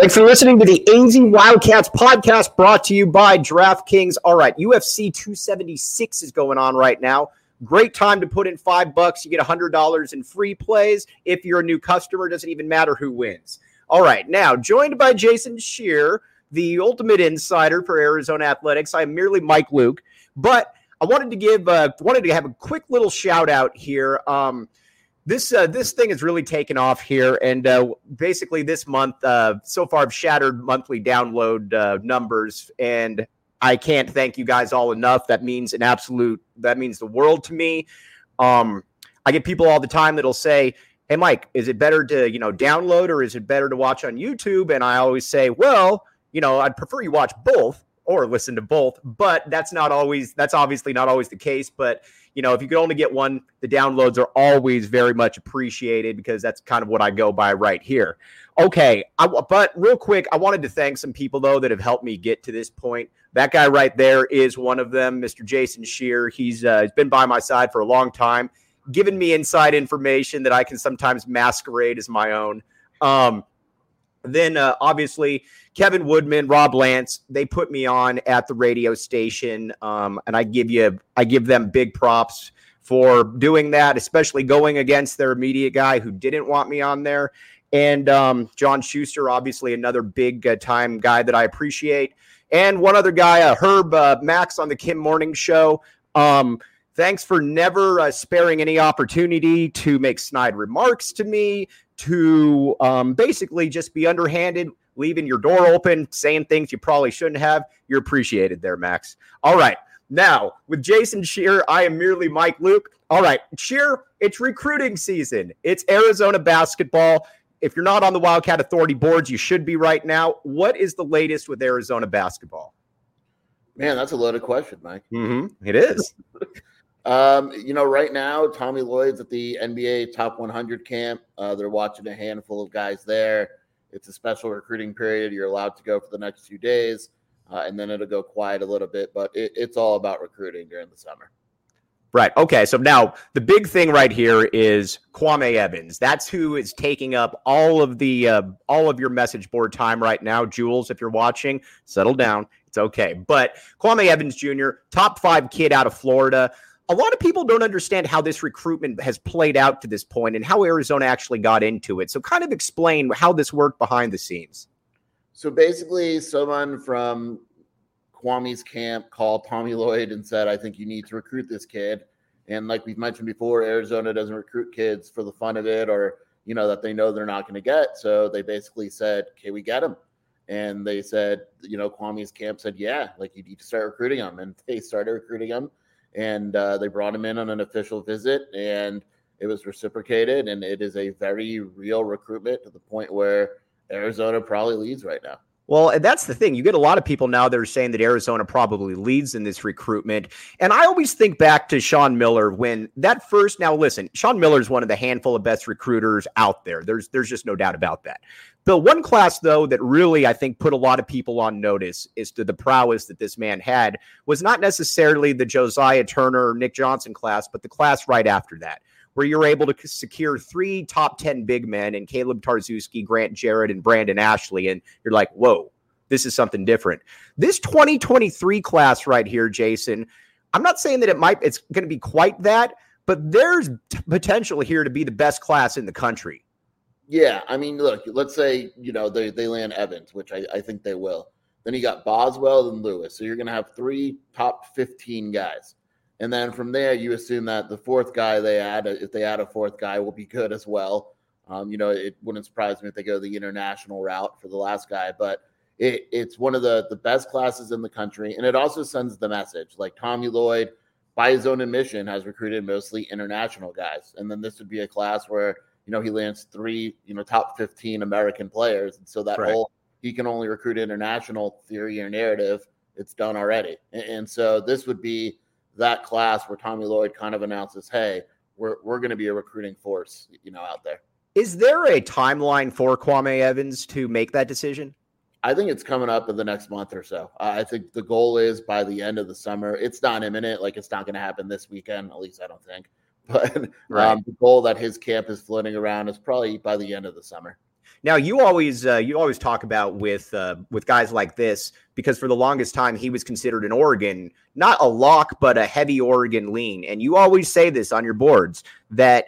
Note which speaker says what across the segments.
Speaker 1: Thanks for listening to the AZ Wildcats podcast brought to you by DraftKings. All right, UFC 276 is going on right now. Great time to put in $5. You get $100 in free plays. If you're a new customer, it doesn't even matter who wins. All right, now joined by Jason Scheer, the ultimate insider for Arizona Athletics. I'm merely Mike Luke, but I wanted to have a quick little shout out here. This thing has really taken off here, and basically this month, so far I've shattered monthly download numbers, and I can't thank you guys all enough. That means the world to me. I get people all the time that'll say, "Hey, Mike, is it better to download or is it better to watch on YouTube?" And I always say, well, I'd prefer you watch both or listen to both, but that's obviously not always the case. But if you could only get one, the downloads are always very much appreciated because that's kind of what I go by right here. Okay, but real quick, I wanted to thank some people, though, that have helped me get to this point. That guy right there is one of them, Mr. Jason Scheer. He's been by my side for a long time, giving me inside information that I can sometimes masquerade as my own. Then obviously, Kevin Woodman, Rob Lance, they put me on at the radio station, and I give them big props for doing that, especially going against their immediate guy who didn't want me on there. And John Schuster, obviously another big time guy that I appreciate. And one other guy, Herb Max on the Kim Morning Show. Thanks for never sparing any opportunity to make snide remarks to me, to basically just be underhanded, leaving your door open, saying things you probably shouldn't have. You're appreciated there, Max. All right. Now, with Jason Scheer, I am merely Mike Luke. All right, Scheer, it's recruiting season. It's Arizona basketball. If you're not on the Wildcat Authority boards, you should be right now. What is the latest with Arizona basketball?
Speaker 2: Man, that's a loaded question, Mike.
Speaker 1: It is.
Speaker 2: Right now, Tommy Lloyd's at the NBA Top 100 camp. They're watching a handful of guys there. It's a special recruiting period. You're allowed to go for the next 2 days, and then it'll go quiet a little bit. But it's all about recruiting during the summer.
Speaker 1: Right. Okay. So now the big thing right here is Kwame Evans. That's who is taking up all of your message board time right now. Jules, if you're watching, settle down. It's okay. But Kwame Evans Jr., top 5 kid out of Florida. A lot of people don't understand how this recruitment has played out to this point and how Arizona actually got into it. So kind of explain how this worked behind the scenes.
Speaker 2: So basically, someone from Kwame's camp called Tommy Lloyd and said, I think you need to recruit this kid. And like we've mentioned before, Arizona doesn't recruit kids for the fun of it or, that they know they're not going to get. So they basically said, can we get him? And they said, Kwame's camp said, yeah, like you need to start recruiting him. And they started recruiting him. And they brought him in on an official visit, and it was reciprocated. And it is a very real recruitment to the point where Arizona probably leads right now.
Speaker 1: Well, and that's the thing. You get a lot of people now that are saying that Arizona probably leads in this recruitment. And I always think back to Sean Miller when that first – now, listen, Sean Miller is one of the handful of best recruiters out there. There's just no doubt about that. The one class, though, that really I think put a lot of people on notice as to the prowess that this man had was not necessarily the Josiah Turner or Nick Johnson class, but the class right after that, where you're able to secure 3 top 10 big men in Caleb Tarczewski, Grant Jarrett, and Brandon Ashley. And you're like, whoa, this is something different. This 2023 class right here, Jason, I'm not saying that it's going to be quite that, but there's potential here to be the best class in the country.
Speaker 2: Yeah, I mean, look, let's say, they land Evans, which I think they will. Then you got Boswell and Lewis. So you're going to have 3 top 15 guys. And then from there, you assume that the 4th guy they add, if they add a 4th guy, will be good as well. It wouldn't surprise me if they go the international route for the last guy. But it's one of the best classes in the country. And it also sends the message. Like Tommy Lloyd, by his own admission, has recruited mostly international guys. And then this would be a class where he lands 3, top 15 American players. And so that whole, he can only recruit international theory or narrative, it's done already. And so this would be that class where Tommy Lloyd kind of announces, hey, we're going to be a recruiting force, out there.
Speaker 1: Is there a timeline for Kwame Evans to make that decision?
Speaker 2: I think it's coming up in the next month or so. I think the goal is by the end of the summer. It's not imminent. Like it's not going to happen this weekend. At least I don't think. But the goal that his camp is floating around is probably by the end of the summer.
Speaker 1: Now, you always talk about with guys like this, because for the longest time he was considered an Oregon, not a lock, but a heavy Oregon lean. And you always say this on your boards that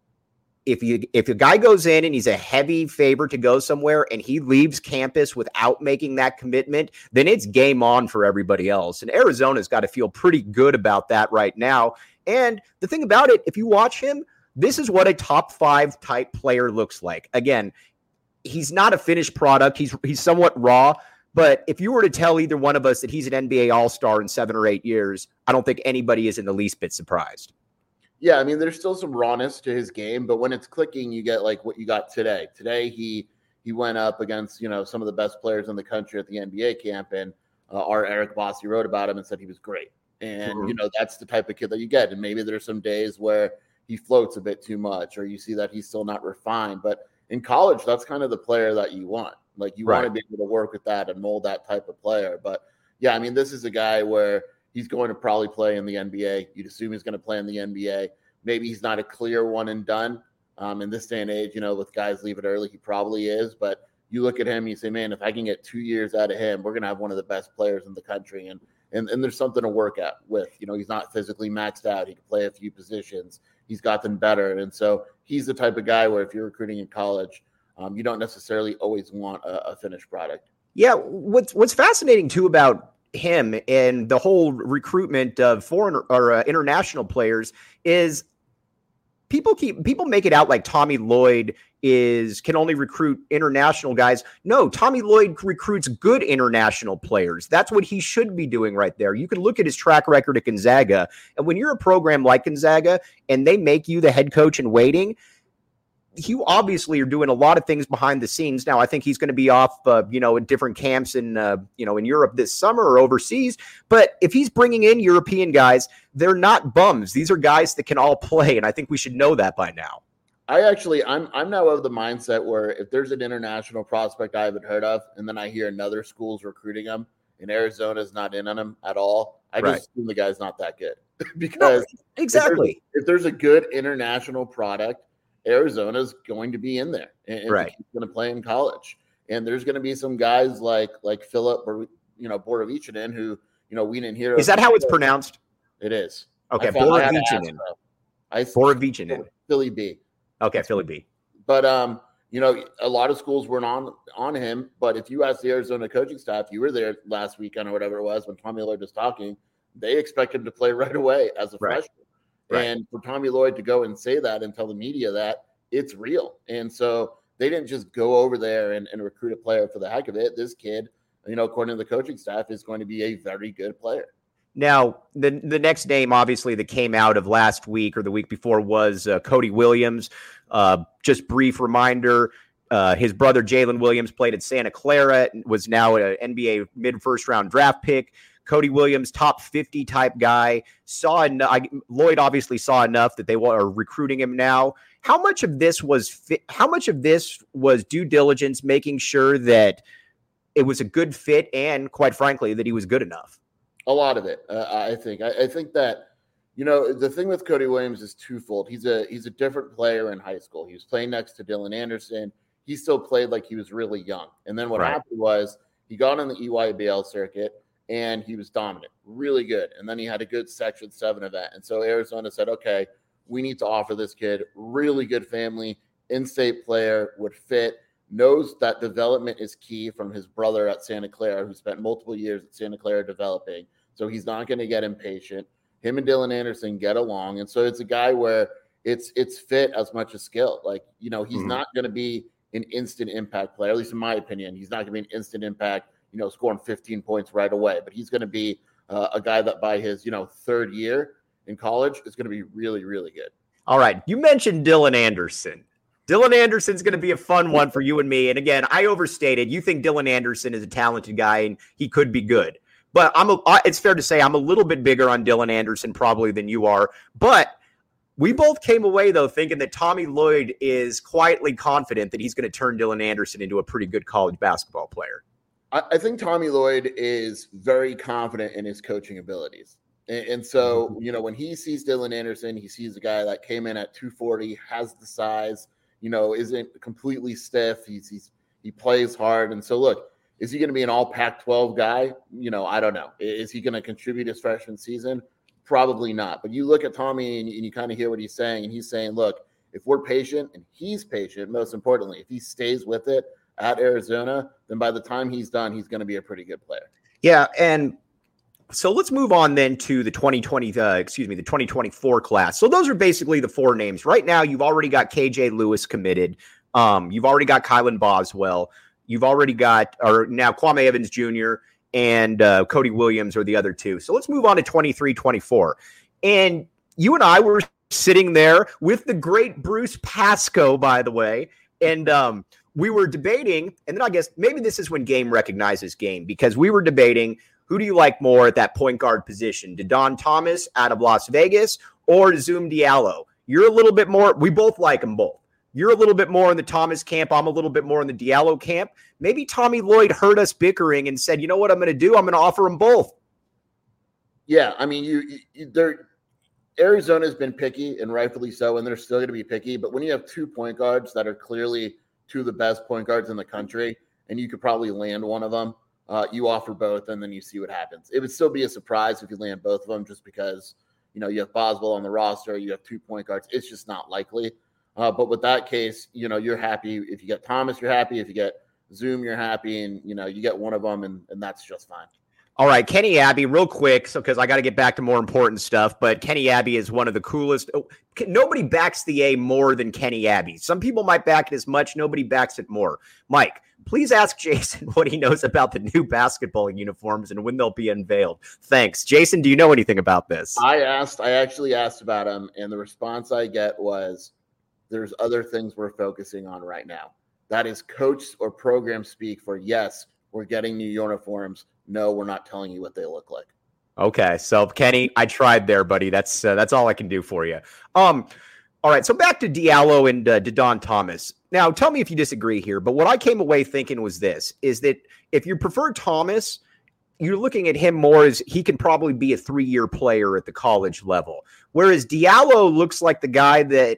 Speaker 1: if a guy goes in and he's a heavy favorite to go somewhere and he leaves campus without making that commitment, then it's game on for everybody else. And Arizona's got to feel pretty good about that right now. And the thing about it, if you watch him, this is what a top 5 type player looks like. Again, he's not a finished product. He's somewhat raw. But if you were to tell either one of us that he's an NBA All-Star in 7 or 8 years, I don't think anybody is in the least bit surprised.
Speaker 2: Yeah, I mean, there's still some rawness to his game, but when it's clicking, you get like what you got today. Today, he went up against, some of the best players in the country at the NBA camp, and our Eric Bossi wrote about him and said he was great. And, that's the type of kid that you get. And maybe there's some days where he floats a bit too much, or you see that he's still not refined. But in college, that's kind of the player that you want. Like, you want to be able to work with that and mold that type of player. But, yeah, I mean, this is a guy where he's going to probably play in the NBA. You'd assume he's going to play in the NBA. Maybe he's not a clear one and done. In this day and age, with guys leave it early, he probably is. But you look at him, you say, man, if I can get 2 years out of him, we're going to have one of the best players in the country. And there's something to work at with. He's not physically maxed out. He can play a few positions. He's gotten better. And so he's the type of guy where if you're recruiting in college, you don't necessarily always want a finished product.
Speaker 1: Yeah, what's fascinating, too, about him and the whole recruitment of foreign or international players is people make it out like Tommy Lloyd can only recruit international guys. No, Tommy Lloyd recruits good international players. That's what he should be doing right there. You can look at his track record at Gonzaga, and when you're a program like Gonzaga and they make you the head coach in waiting, you obviously are doing a lot of things behind the scenes. Now, I think he's going to be off, in different camps in Europe this summer or overseas. But if he's bringing in European guys, they're not bums. These are guys that can all play, and I think we should know that by now.
Speaker 2: I'm now of the mindset where if there's an international prospect I haven't heard of, and then I hear another school's recruiting him, and Arizona's not in on him at all, I just assume the guy's not that good. Because
Speaker 1: exactly,
Speaker 2: if there's a good international product, Arizona's going to be in there, and he's going to play in college. And there's going to be some guys like Philip, Borovichinin, who we didn't hear.
Speaker 1: Is that how it's pronounced?
Speaker 2: It is.
Speaker 1: Okay, Borovichinin. Borovichinin.
Speaker 2: Philly B.
Speaker 1: Okay, Philly B.
Speaker 2: But a lot of schools weren't on him. But if you ask the Arizona coaching staff, you were there last weekend or whatever it was when Tommy Lloyd was talking, they expect him to play right away as a freshman. Right. And for Tommy Lloyd to go and say that and tell the media that, it's real. And so they didn't just go over there and recruit a player for the heck of it. This kid, according to the coaching staff, is going to be a very good player.
Speaker 1: Now, the next name, obviously, that came out of last week or the week before was Cody Williams. Just brief reminder, his brother Jalen Williams played at Santa Clara, was now an NBA mid-first round draft pick. Cody Williams, top 50 type guy, Lloyd obviously saw enough that they are recruiting him now. How much of this was due diligence, making sure that it was a good fit and, quite frankly, that he was good enough?
Speaker 2: A lot of it, I think. I think that, the thing with Cody Williams is twofold. He's a different player in high school. He was playing next to Dylan Anderson. He still played like he was really young. And then what happened was he got on the EYBL circuit, and he was dominant, really good. And then he had a good Section 7 event. And so Arizona said, okay, we need to offer this kid really good family, in-state player, would fit, knows that development is key from his brother at Santa Clara, who spent multiple years at Santa Clara developing. So he's not going to get impatient. Him and Dylan Anderson get along. And so it's a guy where it's fit as much as skill. Like, he's not going to be an instant impact player, at least in my opinion. He's not going to be an instant impact, scoring 15 points right away. But he's going to be a guy that by his, third year in college is going to be really, really good.
Speaker 1: All right. You mentioned Dylan Anderson. Dylan Anderson's going to be a fun one for you and me. And again, I overstated. You think Dylan Anderson is a talented guy and he could be good. But it's fair to say I'm a little bit bigger on Dylan Anderson probably than you are. But we both came away, though, thinking that Tommy Lloyd is quietly confident that he's going to turn Dylan Anderson into a pretty good college basketball player.
Speaker 2: I think Tommy Lloyd is very confident in his coaching abilities. And so, when he sees Dylan Anderson, he sees a guy that came in at 240, has the size, isn't completely stiff. He plays hard. And so, look, is he going to be an all Pac-12 guy? I don't know. Is he going to contribute his freshman season? Probably not. But you look at Tommy and you kind of hear what he's saying. And he's saying, look, if we're patient and he's patient, most importantly, if he stays with it at Arizona, then by the time he's done, he's going to be a pretty good player.
Speaker 1: Yeah. And so let's move on then to the 2024 class. So those are basically the four names. Right now, you've already got KJ Lewis committed. You've already got Kylan Boswell. You've already got, or now Kwame Evans Jr. and Cody Williams are the other two. So let's move on to 23-24. And you and I were sitting there with the great Bruce Pascoe, by the way, and we were debating, and then I guess maybe this is when game recognizes game, because we were debating, who do you like more at that point guard position? DeDon Thomas out of Las Vegas or Zoom Diallo? You're a little bit more, we both like them both. You're a little bit more in the Thomas camp. I'm a little bit more in the Diallo camp. Maybe Tommy Lloyd heard us bickering and said, you know what I'm going to do? I'm going to offer them both.
Speaker 2: Yeah, I mean, Arizona's been picky, and rightfully so, and they're still going to be picky. But when you have 2 point guards that are clearly two of the best point guards in the country, and you could probably land one of them, you offer both, and then you see what happens. It would still be a surprise if you land both of them, just because you have Boswell on the roster, you have 2 point guards. It's just not likely. But with that case, you're happy. If you get Thomas, you're happy. If you get Zoom, you're happy, and you get one of them, and that's just fine.
Speaker 1: All right, Kenny Abbey, real quick, so because I got to get back to more important stuff, but Kenny Abbey is one of the coolest. Nobody backs the A more than Kenny Abbey. Some people might back it as much. Nobody backs it more. Mike, please ask Jason what he knows about the new basketball uniforms and when they'll be unveiled. Thanks. Jason, do you know anything about this?
Speaker 2: I actually asked about him, and the response I get was, there's other things we're focusing on right now. That is coach or program speak for, yes, we're getting new uniforms. No, we're not telling you what they look like.
Speaker 1: Okay, so Kenny, I tried there, buddy. That's all I can do for you. All right, so back to Diallo and DeDon Thomas. Now, tell me if you disagree here, but what I came away thinking was this, is that if you prefer Thomas, you're looking at him more as he can probably be a 3-year player at the college level, whereas Diallo looks like the guy that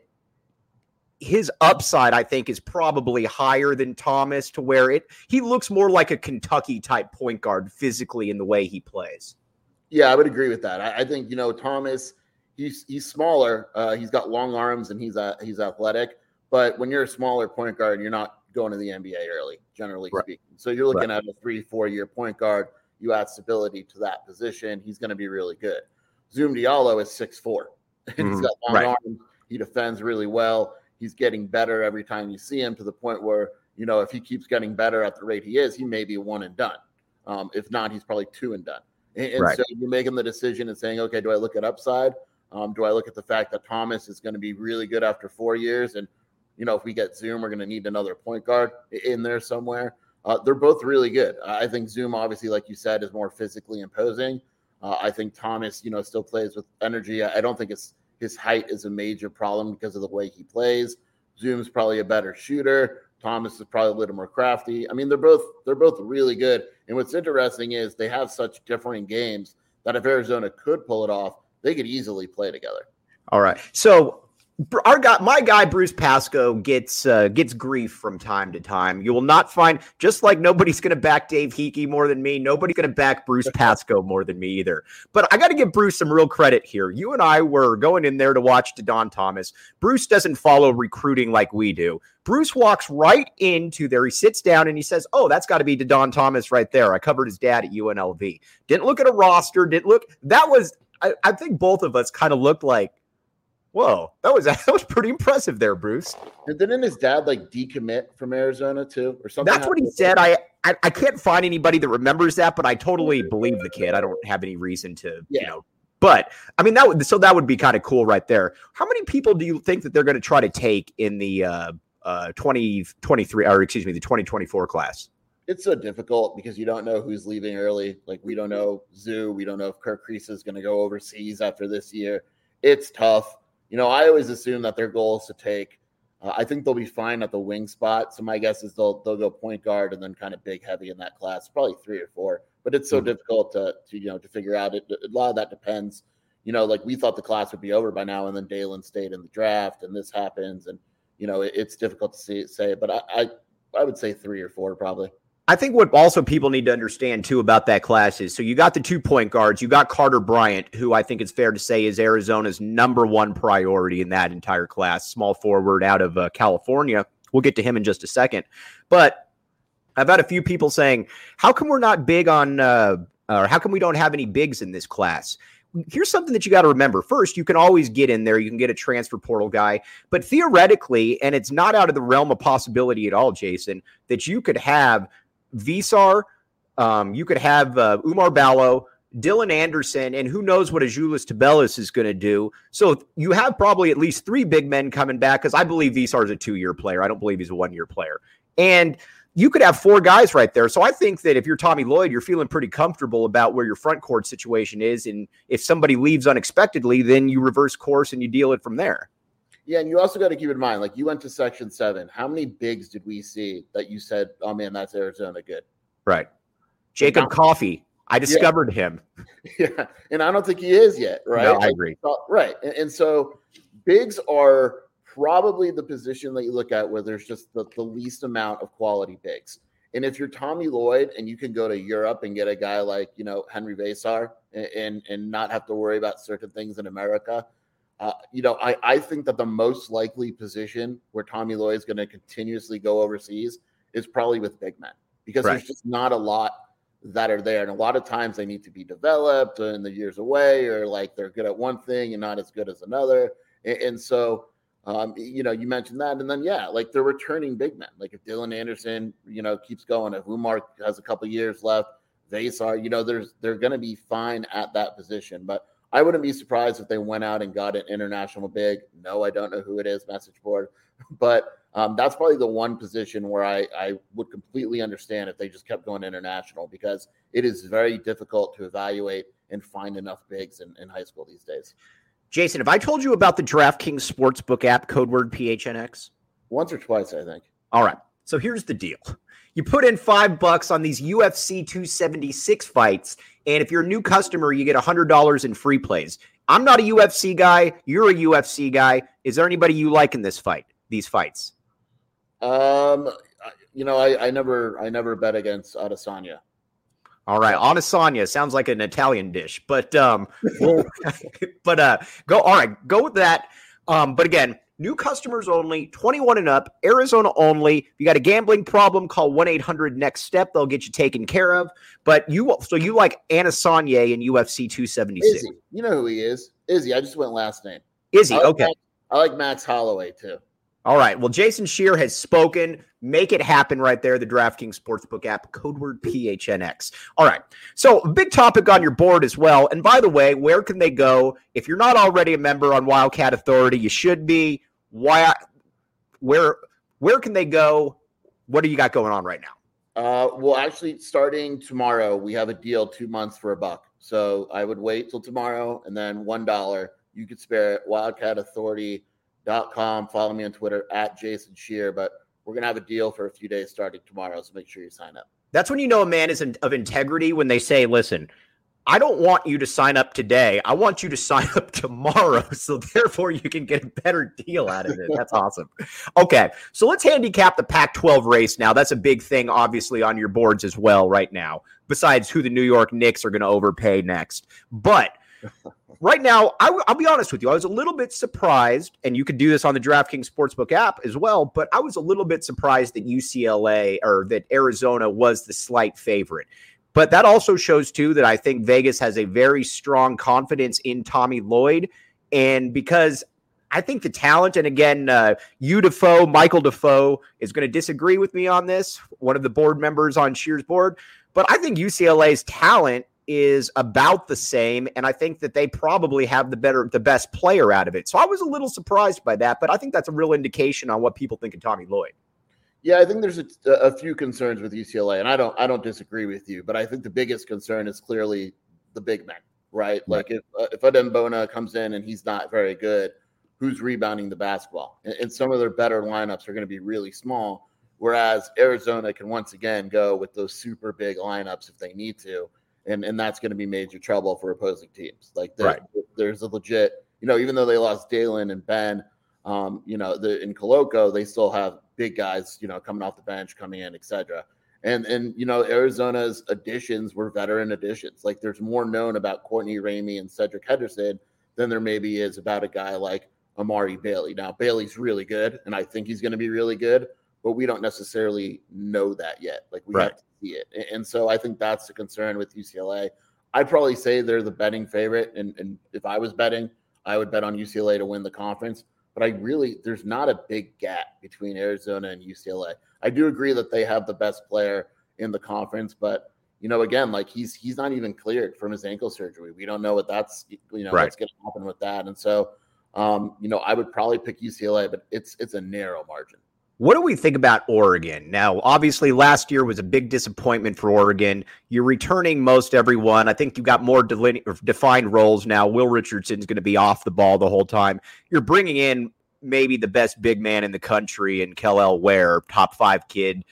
Speaker 1: his upside, I think, is probably higher than Thomas, to where he looks more like a Kentucky type point guard physically in the way he plays.
Speaker 2: Yeah, I would agree with that. I think, Thomas, he's smaller. He's got long arms and he's athletic. But when you're a smaller point guard, you're not going to the NBA early, generally speaking. So you're looking at a 3-4 year point guard. You add stability to that position. He's going to be really good. Zoom Diallo is 6'4", and he's got long arms. He defends really well. He's getting better every time you see him, to the point where, if he keeps getting better at the rate he is, he may be 1 and done. If not, he's probably 2 and done. And so you're making the decision and saying, okay, do I look at upside? Do I look at the fact that Thomas is going to be really good after 4 years? And, if we get Zoom, we're going to need another point guard in there somewhere. They're both really good. I think Zoom, obviously, like you said, is more physically imposing. I think Thomas, still plays with energy. I don't think his height is a major problem because of the way he plays. Zoom's probably a better shooter. Thomas is probably a little more crafty. I mean, they're both really good. And what's interesting is they have such differing games that if Arizona could pull it off, they could easily play together.
Speaker 1: All right. So my guy Bruce Pascoe gets grief from time to time. You will not find, just like nobody's going to back Dave Hickey more than me, nobody's going to back Bruce Pascoe more than me either. But I got to give Bruce some real credit here. You and I were going in there to watch DeDon Thomas. Bruce doesn't follow recruiting like we do. Bruce walks right into there. He sits down and he says, "Oh, that's got to be DeDon Thomas right there. I covered his dad at UNLV." Didn't look at a roster. I think both of us kind of looked like, whoa, that was pretty impressive there, Bruce.
Speaker 2: And didn't his dad decommit from Arizona too, or something?
Speaker 1: That's what he said. I can't find anybody that remembers that, but I totally believe the kid. I don't have any reason to, But I mean, that would be kind of cool right there. How many people do you think that they're going to try to take in the 2023, or excuse me, the 2024 class?
Speaker 2: It's so difficult because you don't know who's leaving early. We don't know Zoo. We don't know if Kirk Kriisa is going to go overseas after this year. It's tough. I always assume that their goal is to take. I think they'll be fine at the wing spot. So my guess is they'll go point guard and then kind of big heavy in that class, probably 3 or 4. But it's so difficult to figure out. A lot of that depends. We thought the class would be over by now, and then Dalen stayed in the draft, and this happens, and it's difficult to say, but I would say 3 or 4 probably.
Speaker 1: I think what also people need to understand too about that class is, so you got the 2 point guards, you got Carter Bryant, who I think it's fair to say is Arizona's number 1 priority in that entire class, small forward out of California. We'll get to him in just a second. But I've had a few people saying, how come we're not big on, or how come we don't have any bigs in this class? Here's something that you got to remember. First, you can always get in there. You can get a transfer portal guy. But theoretically, and it's not out of the realm of possibility at all, Jason, that you could have Visar, you could have Umar Ballo, Dylan Anderson, and who knows what Azuolas Tubelis is going to do. So you have probably at least 3 big men coming back, because I believe Visar is a 2-year player. I don't believe he's a 1-year player. And you could have 4 guys right there. So I think that if you're Tommy Lloyd, you're feeling pretty comfortable about where your front court situation is. And if somebody leaves unexpectedly, then you reverse course and you deal it from there.
Speaker 2: Yeah, and you also got to keep in mind, like, you went to Section 7. How many bigs did we see that you said, oh, man, that's Arizona good?
Speaker 1: Right. Jacob Coffey. I discovered him.
Speaker 2: Yeah, and I don't think he is yet, right?
Speaker 1: No, I agree.
Speaker 2: Right, and so bigs are probably the position that you look at where there's just the least amount of quality bigs. And if you're Tommy Lloyd and you can go to Europe and get a guy like, Henry Vesar and not have to worry about certain things in America, I think that the most likely position where Tommy Lloyd is going to continuously go overseas is probably with big men, because there's just not a lot that are there. And a lot of times they need to be developed in the years away, or like they're good at one thing and not as good as another. And so, you mentioned that. And then, like they're returning big men. Like if Dylan Anderson, keeps going, if Umar has a couple years left, Vesar, they're going to be fine at that position. But I wouldn't be surprised if they went out and got an international big. No, I don't know who it is, message board. But that's probably the one position where I would completely understand if they just kept going international, because it is very difficult to evaluate and find enough bigs in high school these days.
Speaker 1: Jason, have I told you about the DraftKings Sportsbook app, code word PHNX?
Speaker 2: Once or twice, I think.
Speaker 1: All right. So here's the deal. You put in $5 on these UFC 276 fights, and if you're a new customer, you get $100 in free plays. I'm not a UFC guy. You're a UFC guy. Is there anybody you like in these fights?
Speaker 2: I never bet against Adesanya.
Speaker 1: All right, Adesanya sounds like an Italian dish, but go with that. But again, new customers only, 21 and up, Arizona only. If you got a gambling problem, call 1-800-NEXT-STEP. They'll get you taken care of. But you like Adesanya in UFC 276?
Speaker 2: Izzy, you know who he is? Izzy. I just went last name.
Speaker 1: Izzy, okay.
Speaker 2: I like Max Holloway too.
Speaker 1: All right. Well, Jason Scheer has spoken. Make it happen right there. The DraftKings Sportsbook app, code word PHNX. All right. So a big topic on your board as well. And by the way, where can they go? If you're not already a member on Wildcat Authority, you should be. Where can they go? What do you got going on right now?
Speaker 2: Well, actually, starting tomorrow, we have a deal 2 months for $1. So I would wait till tomorrow, and then $1 you could spare it. WildcatAuthority.com. Follow me on Twitter at Jason Scheer. But we're going to have a deal for a few days starting tomorrow, so make sure you sign up.
Speaker 1: That's when you know a man is of integrity, when they say, listen, I don't want you to sign up today. I want you to sign up tomorrow, so therefore you can get a better deal out of it. That's awesome. Okay, so let's handicap the Pac-12 race now. That's a big thing, obviously, on your boards as well right now, besides who the New York Knicks are going to overpay next. But right now, I'll be honest with you. I was a little bit surprised, and you could do this on the DraftKings Sportsbook app as well, but I was a little bit surprised that that Arizona was the slight favorite. But that also shows, too, that I think Vegas has a very strong confidence in Tommy Lloyd. And because I think the talent, and again, Michael Defoe is going to disagree with me on this, one of the board members on Scheer's board. But I think UCLA's talent is about the same, and I think that they probably have the best player out of it. So I was a little surprised by that, but I think that's a real indication on what people think of Tommy Lloyd.
Speaker 2: Yeah, I think there's a few concerns with UCLA, and I don't disagree with you, but I think the biggest concern is clearly the big men, right? Like if Adembona comes in and he's not very good, who's rebounding the basketball? And some of their better lineups are going to be really small, whereas Arizona can once again go with those super big lineups if they need to, and that's going to be major trouble for opposing teams. Like there's a legit, even though they lost Dalen and Ben, In Coloco, they still have big guys, coming off the bench, coming in, etc. And Arizona's additions were veteran additions. Like there's more known about Courtney Ramey and Cedric Henderson than there maybe is about a guy like Amari Bailey. Now, Bailey's really good, and I think he's going to be really good, but we don't necessarily know that yet. Like we have to see it. And so I think that's the concern with UCLA. I'd probably say they're the betting favorite. And if I was betting, I would bet on UCLA to win the conference. But there's not a big gap between Arizona and UCLA. I do agree that they have the best player in the conference, but again, like he's not even cleared from his ankle surgery. We don't know what that's, what's going to happen with that. And so, I would probably pick UCLA, but it's a narrow margin.
Speaker 1: What do we think about Oregon? Now, obviously, last year was a big disappointment for Oregon. You're returning most everyone. I think you've got more defined roles now. Will Richardson's going to be off the ball the whole time. You're bringing in maybe the best big man in the country in Kel'el Ware, top 5 kid.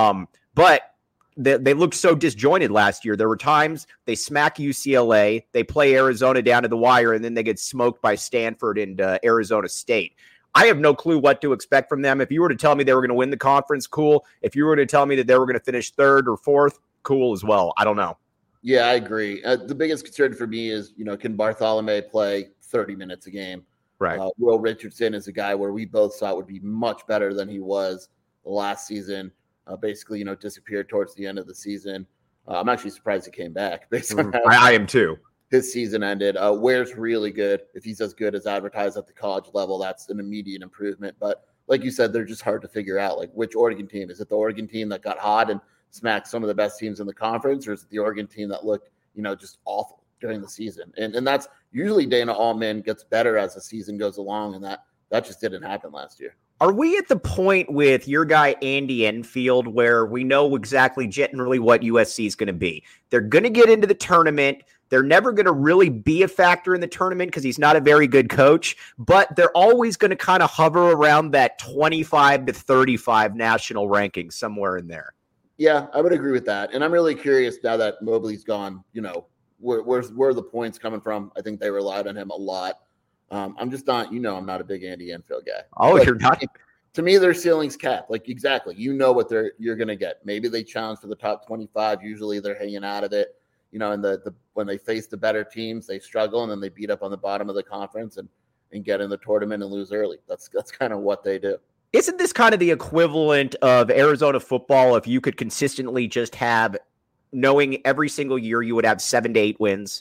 Speaker 1: But they looked so disjointed last year. There were times they smack UCLA, they play Arizona down to the wire, and then they get smoked by Stanford and Arizona State. I have no clue what to expect from them. If you were to tell me they were going to win the conference, cool. If you were to tell me that they were going to finish 3rd or 4th, cool as well. I don't know.
Speaker 2: Yeah, I agree. The biggest concern for me is, can Bartholomew play 30 minutes a game?
Speaker 1: Right.
Speaker 2: Will Richardson is a guy where we both thought would be much better than he was last season. Basically, disappeared towards the end of the season. I'm actually surprised he came back. Based on
Speaker 1: I am too.
Speaker 2: His season ended. Ware's really good. If he's as good as advertised at the college level, that's an immediate improvement. But like you said, they're just hard to figure out. Like which Oregon team? Is it the Oregon team that got hot and smacked some of the best teams in the conference, or is it the Oregon team that looked, just awful during the season? And that's usually Dana Altman gets better as the season goes along, and that just didn't happen last year.
Speaker 1: Are we at the point with your guy Andy Enfield where we know exactly generally what USC is going to be? They're going to get into the tournament. They're never going to really be a factor in the tournament because he's not a very good coach, but they're always going to kind of hover around that 25 to 35 national ranking, somewhere in there.
Speaker 2: Yeah, I would agree with that. And I'm really curious now that Mobley's gone, where are the points coming from? I think they relied on him a lot. I'm just not, I'm not a big Andy Enfield guy.
Speaker 1: Oh, you're not?
Speaker 2: To me, their ceiling's capped. Like exactly, what you're going to get. Maybe they challenge for the top 25. Usually they're hanging out of it. And when they face the better teams, they struggle, and then they beat up on the bottom of the conference and get in the tournament and lose early. That's kind of what they do.
Speaker 1: Isn't this kind of the equivalent of Arizona football if you could consistently just have, knowing every single year you would have 7 to 8 wins?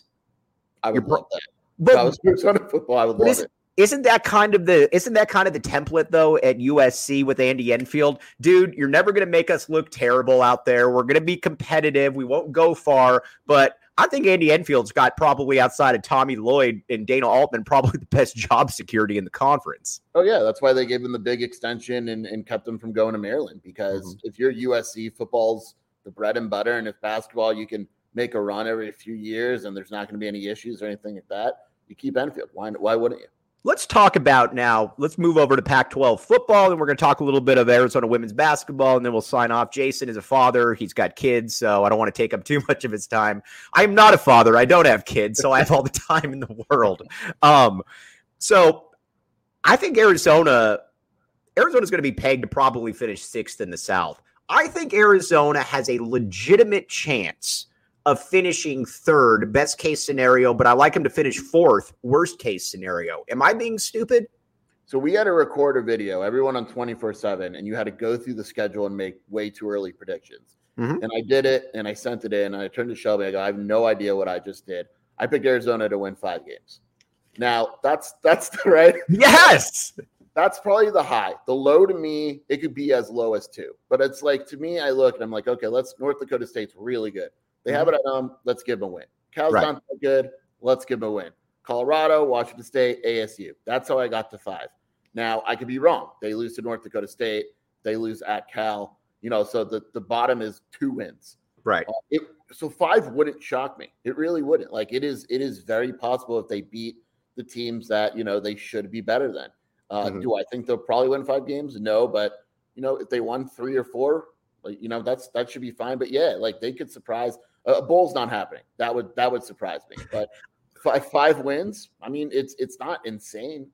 Speaker 2: I would love that. But, if I was Arizona football, I would love it.
Speaker 1: Isn't that kind of the template though at USC with Andy Enfield? Dude, you're never going to make us look terrible out there. We're going to be competitive. We won't go far, but I think Andy Enfield's got probably outside of Tommy Lloyd and Dana Altman probably the best job security in the conference.
Speaker 2: Oh yeah, that's why they gave him the big extension and kept him from going to Maryland, because if you're USC, football's the bread and butter, and if basketball you can make a run every few years and there's not going to be any issues or anything like that, you keep Enfield. Why wouldn't you?
Speaker 1: Let's talk about now. Let's move over to Pac-12 football, and we're going to talk a little bit of Arizona women's basketball, and then we'll sign off. Jason is a father. He's got kids, so I don't want to take up too much of his time. I'm not a father. I don't have kids, so I have all the time in the world. So I think Arizona's going to be pegged to probably finish 6th in the South. I think Arizona has a legitimate chance of finishing 3rd, best case scenario, but I like him to finish 4th, worst case scenario. Am I being stupid?
Speaker 2: So we had to record a video, everyone on 24/7, and you had to go through the schedule and make way too early predictions. And I did it, and I sent it in, and I turned to Shelby. I go, I have no idea what I just did. I picked Arizona to win 5 games. Now, that's right.
Speaker 1: Yes.
Speaker 2: That's probably the high. The low to me, it could be as low as 2. But it's like, to me, I look, and I'm like, okay, North Dakota State's really good. They have it at home. Let's give them a win. Cal's not that good. Let's give them a win. Colorado, Washington State, ASU. That's how I got to 5. Now, I could be wrong. They lose to North Dakota State. They lose at Cal. So the bottom is 2 wins.
Speaker 1: Right.
Speaker 2: So 5 wouldn't shock me. It really wouldn't. Like it is very possible if they beat the teams that, they should be better than. Do I think they'll probably win 5 games? No, but if they won 3 or 4, like, that should be fine. But yeah, like they could surprise. A bowl's not happening. That would surprise me. But 5 wins. I mean, it's not insane.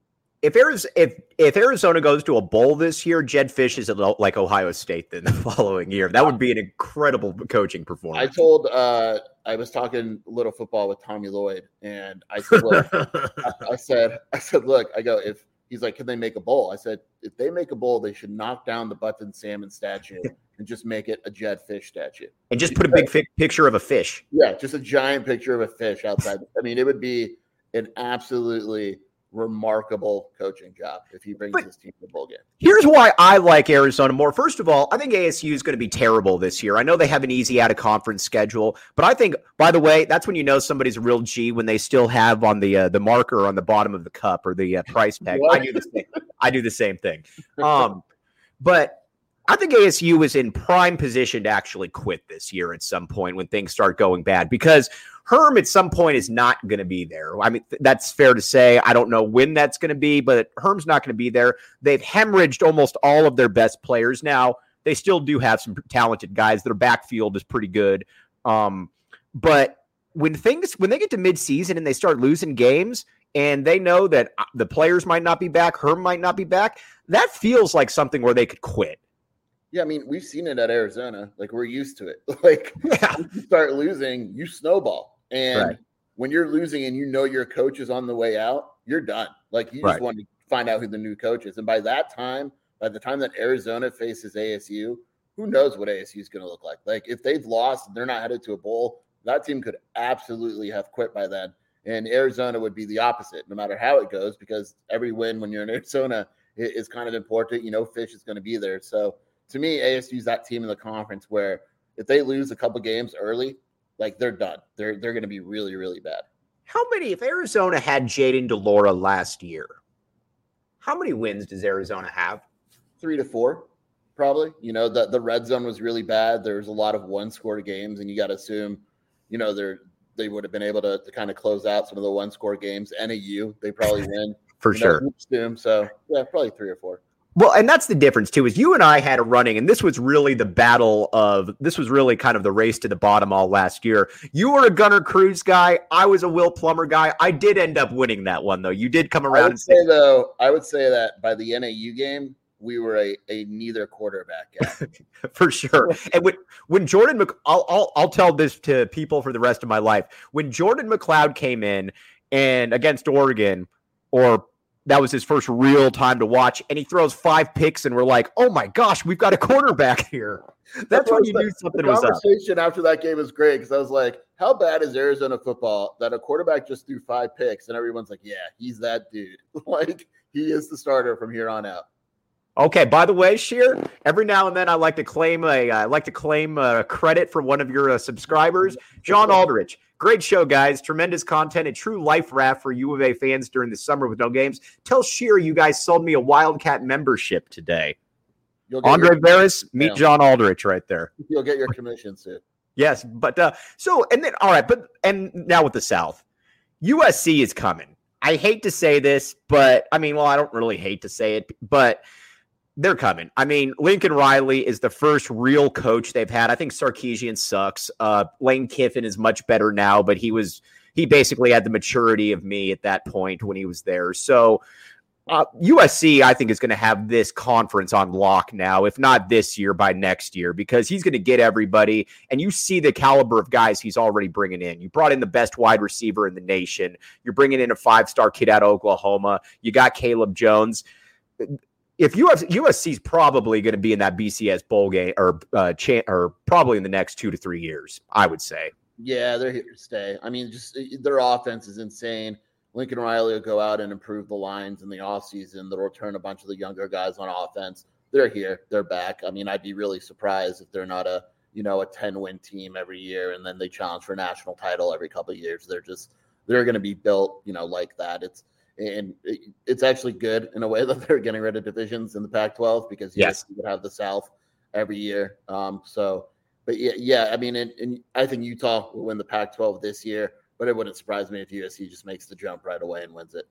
Speaker 1: if Arizona goes to a bowl this year, Jedd Fisch is like Ohio State then the following year. That would be an incredible coaching performance.
Speaker 2: I was talking little football with Tommy Lloyd, and I said, look, I said, look, I go, if he's like, can they make a bowl? I said, if they make a bowl, they should knock down the Button Salmon statue and just make it a Jedd Fisch statue.
Speaker 1: And just put a big picture of a fish.
Speaker 2: Yeah, just a giant picture of a fish outside. I mean, it would be an absolutely remarkable coaching job if he brings his team to the bowl game.
Speaker 1: Here's why I like Arizona more. First of all, I think ASU is going to be terrible this year. I know they have an easy out-of-conference schedule, but I think, by the way, that's when you know somebody's a real G, when they still have on the marker on the bottom of the cup or the price tag. I do the same thing. But I think ASU is in prime position to actually quit this year at some point when things start going bad, because Herm at some point is not going to be there. I mean, that's fair to say. I don't know when that's going to be, but Herm's not going to be there. They've hemorrhaged almost all of their best players now. They still do have some talented guys. Their backfield is pretty good. But when they get to midseason and they start losing games and they know that the players might not be back, Herm might not be back, that feels like something where they could quit.
Speaker 2: Yeah, I mean, we've seen it at Arizona. Like, we're used to it. Like, when you start losing, you snowball. And when you're losing and you know your coach is on the way out, you're done. Like, you just want to find out who the new coach is. And by the time that Arizona faces ASU, who knows what ASU is going to look like. Like, if they've lost and they're not headed to a bowl, that team could absolutely have quit by then. And Arizona would be the opposite, no matter how it goes, because every win when you're in Arizona is kind of important. You know, Fisch is going to be there. So, to me, ASU is that team in the conference where if they lose a couple games early, like, they're done. They're going to be really, really bad.
Speaker 1: If Arizona had Jayden de Laura last year, how many wins does Arizona have?
Speaker 2: 3 to 4, probably. You know, the red zone was really bad. There's a lot of one-score games, and you got to assume, you know, they would have been able to kind of close out some of the one-score games. NAU, they probably win.
Speaker 1: For sure.
Speaker 2: So, yeah, probably 3 or 4.
Speaker 1: Well, and that's the difference, too, is you and I had a running, and this was really this was really kind of the race to the bottom all last year. You were a Gunnar Cruz guy. I was a Will Plummer guy. I did end up winning that one, though. You did come around
Speaker 2: I would say that by the NAU game, we were a neither quarterback guy.
Speaker 1: For sure. And when Jordan, I'll tell this to people for the rest of my life. When Jordan McLeod came in and against Oregon, that was his first real time to watch, and he throws 5 picks, and we're like, oh my gosh, we've got a quarterback here. That's when you knew something was up.
Speaker 2: The conversation after that game was great, because I was like, how bad is Arizona football that a quarterback just threw 5 picks, and everyone's like, yeah, he's that dude. Like, he is the starter from here on out.
Speaker 1: Okay, by the way, Sheer, every now and then I like to claim credit for one of your subscribers, John Aldrich. Great show, guys. Tremendous content. A true life raft for U of A fans during the summer with no games. Tell Sheer you guys sold me a Wildcat membership today. Andre Veras, meet John Aldrich right there.
Speaker 2: You'll get your commission soon.
Speaker 1: Yes, but now with the South, USC is coming. I hate to say this, but I don't really hate to say it, but they're coming. I mean, Lincoln Riley is the first real coach they've had. I think Sarkisian sucks. Lane Kiffin is much better now, but he basically had the maturity of me at that point when he was there. So USC, I think, is going to have this conference on lock now, if not this year, by next year, because he's going to get everybody. And you see the caliber of guys he's already bringing in. You brought in the best wide receiver in the nation. You're bringing in a 5-star kid out of Oklahoma. You got Caleb Jones. If USC is probably going to be in that BCS bowl game or probably in the next 2 to 3 years, I would say.
Speaker 2: Yeah, they're here to stay. I mean, just their offense is insane. Lincoln Riley will go out and improve the lines in the offseason. They'll return a bunch of the younger guys on offense. They're here. They're back. I mean, I'd be really surprised if they're not a 10-win team every year and then they challenge for a national title every couple of years. They're going to be built, like that. It's actually good in a way that they're getting rid of divisions in the Pac-12 because you would have the South every year. But yeah. I mean, and I think Utah will win the Pac-12 this year, but it wouldn't surprise me if USC just makes the jump right away and wins it.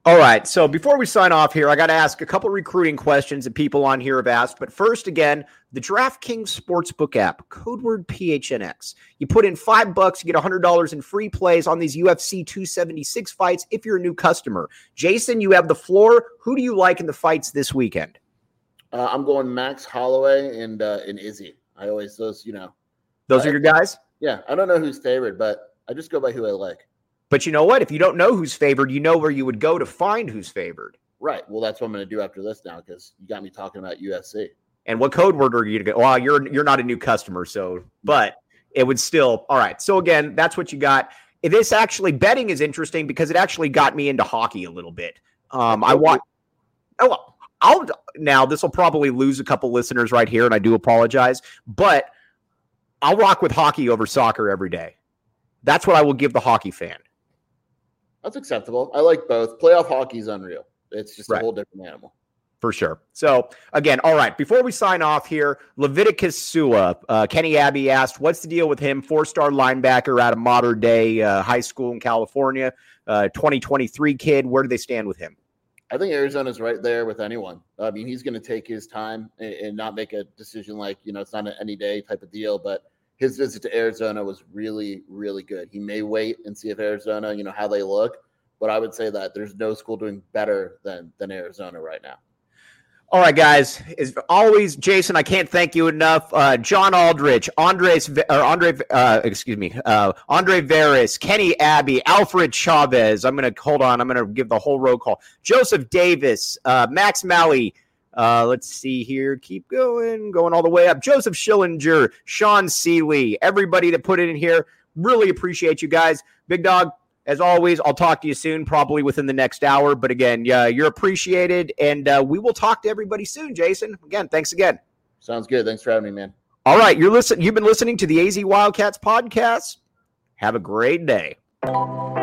Speaker 1: All right. So before we sign off here, I got to ask a couple recruiting questions that people on here have asked. But first, again, the DraftKings Sportsbook app, code word PHNX. You put in $5, you get $100 in free plays on these UFC 276 fights if you're a new customer. Jason, you have the floor. Who do you like in the fights this weekend?
Speaker 2: I'm going Max Holloway and Izzy. I always those
Speaker 1: are your guys?
Speaker 2: Yeah, I don't know who's favored, but I just go by who I like.
Speaker 1: But you know what? If you don't know who's favored, you know where you would go to find who's favored.
Speaker 2: Right. Well, that's what I'm going to do after this now because you got me talking about UFC.
Speaker 1: And what code word are you to go? Well, you're not a new customer, so but it would still. All right. So again, that's what you got. This actually betting is interesting because it actually got me into hockey a little bit. I want. Oh, now this will probably lose a couple listeners right here, and I do apologize, but I'll rock with hockey over soccer every day. That's what I will give the hockey fan.
Speaker 2: That's acceptable. I like both. Playoff hockey is unreal. It's just a whole different animal.
Speaker 1: For sure. So, again, all right, before we sign off here, Leviticus Sua, Kenny Abbey asked, what's the deal with him? 4-star linebacker out of Mater Dei high school in California, 2023 kid. Where do they stand with him?
Speaker 2: I think Arizona's right there with anyone. I mean, he's going to take his time and not make a decision like, it's not an any day type of deal, but his visit to Arizona was really, really good. He may wait and see if Arizona, how they look, but I would say that there's no school doing better than Arizona right now.
Speaker 1: All right, guys. As always, Jason, I can't thank you enough. John Aldrich, Andre Veras, Kenny Abbey, Alfred Chavez. I'm going to give the whole roll call. Joseph Davis, Max Malley. Let's see here. Keep going all the way up. Joseph Schillinger, Sean Seeley, everybody that put it in here. Really appreciate you guys. Big Dog, as always, I'll talk to you soon, probably within the next hour. But again, you're appreciated, and we will talk to everybody soon, Jason. Again, thanks again.
Speaker 2: Sounds good. Thanks for having me, man.
Speaker 1: All right, you've been listening to the AZ Wildcats podcast. Have a great day.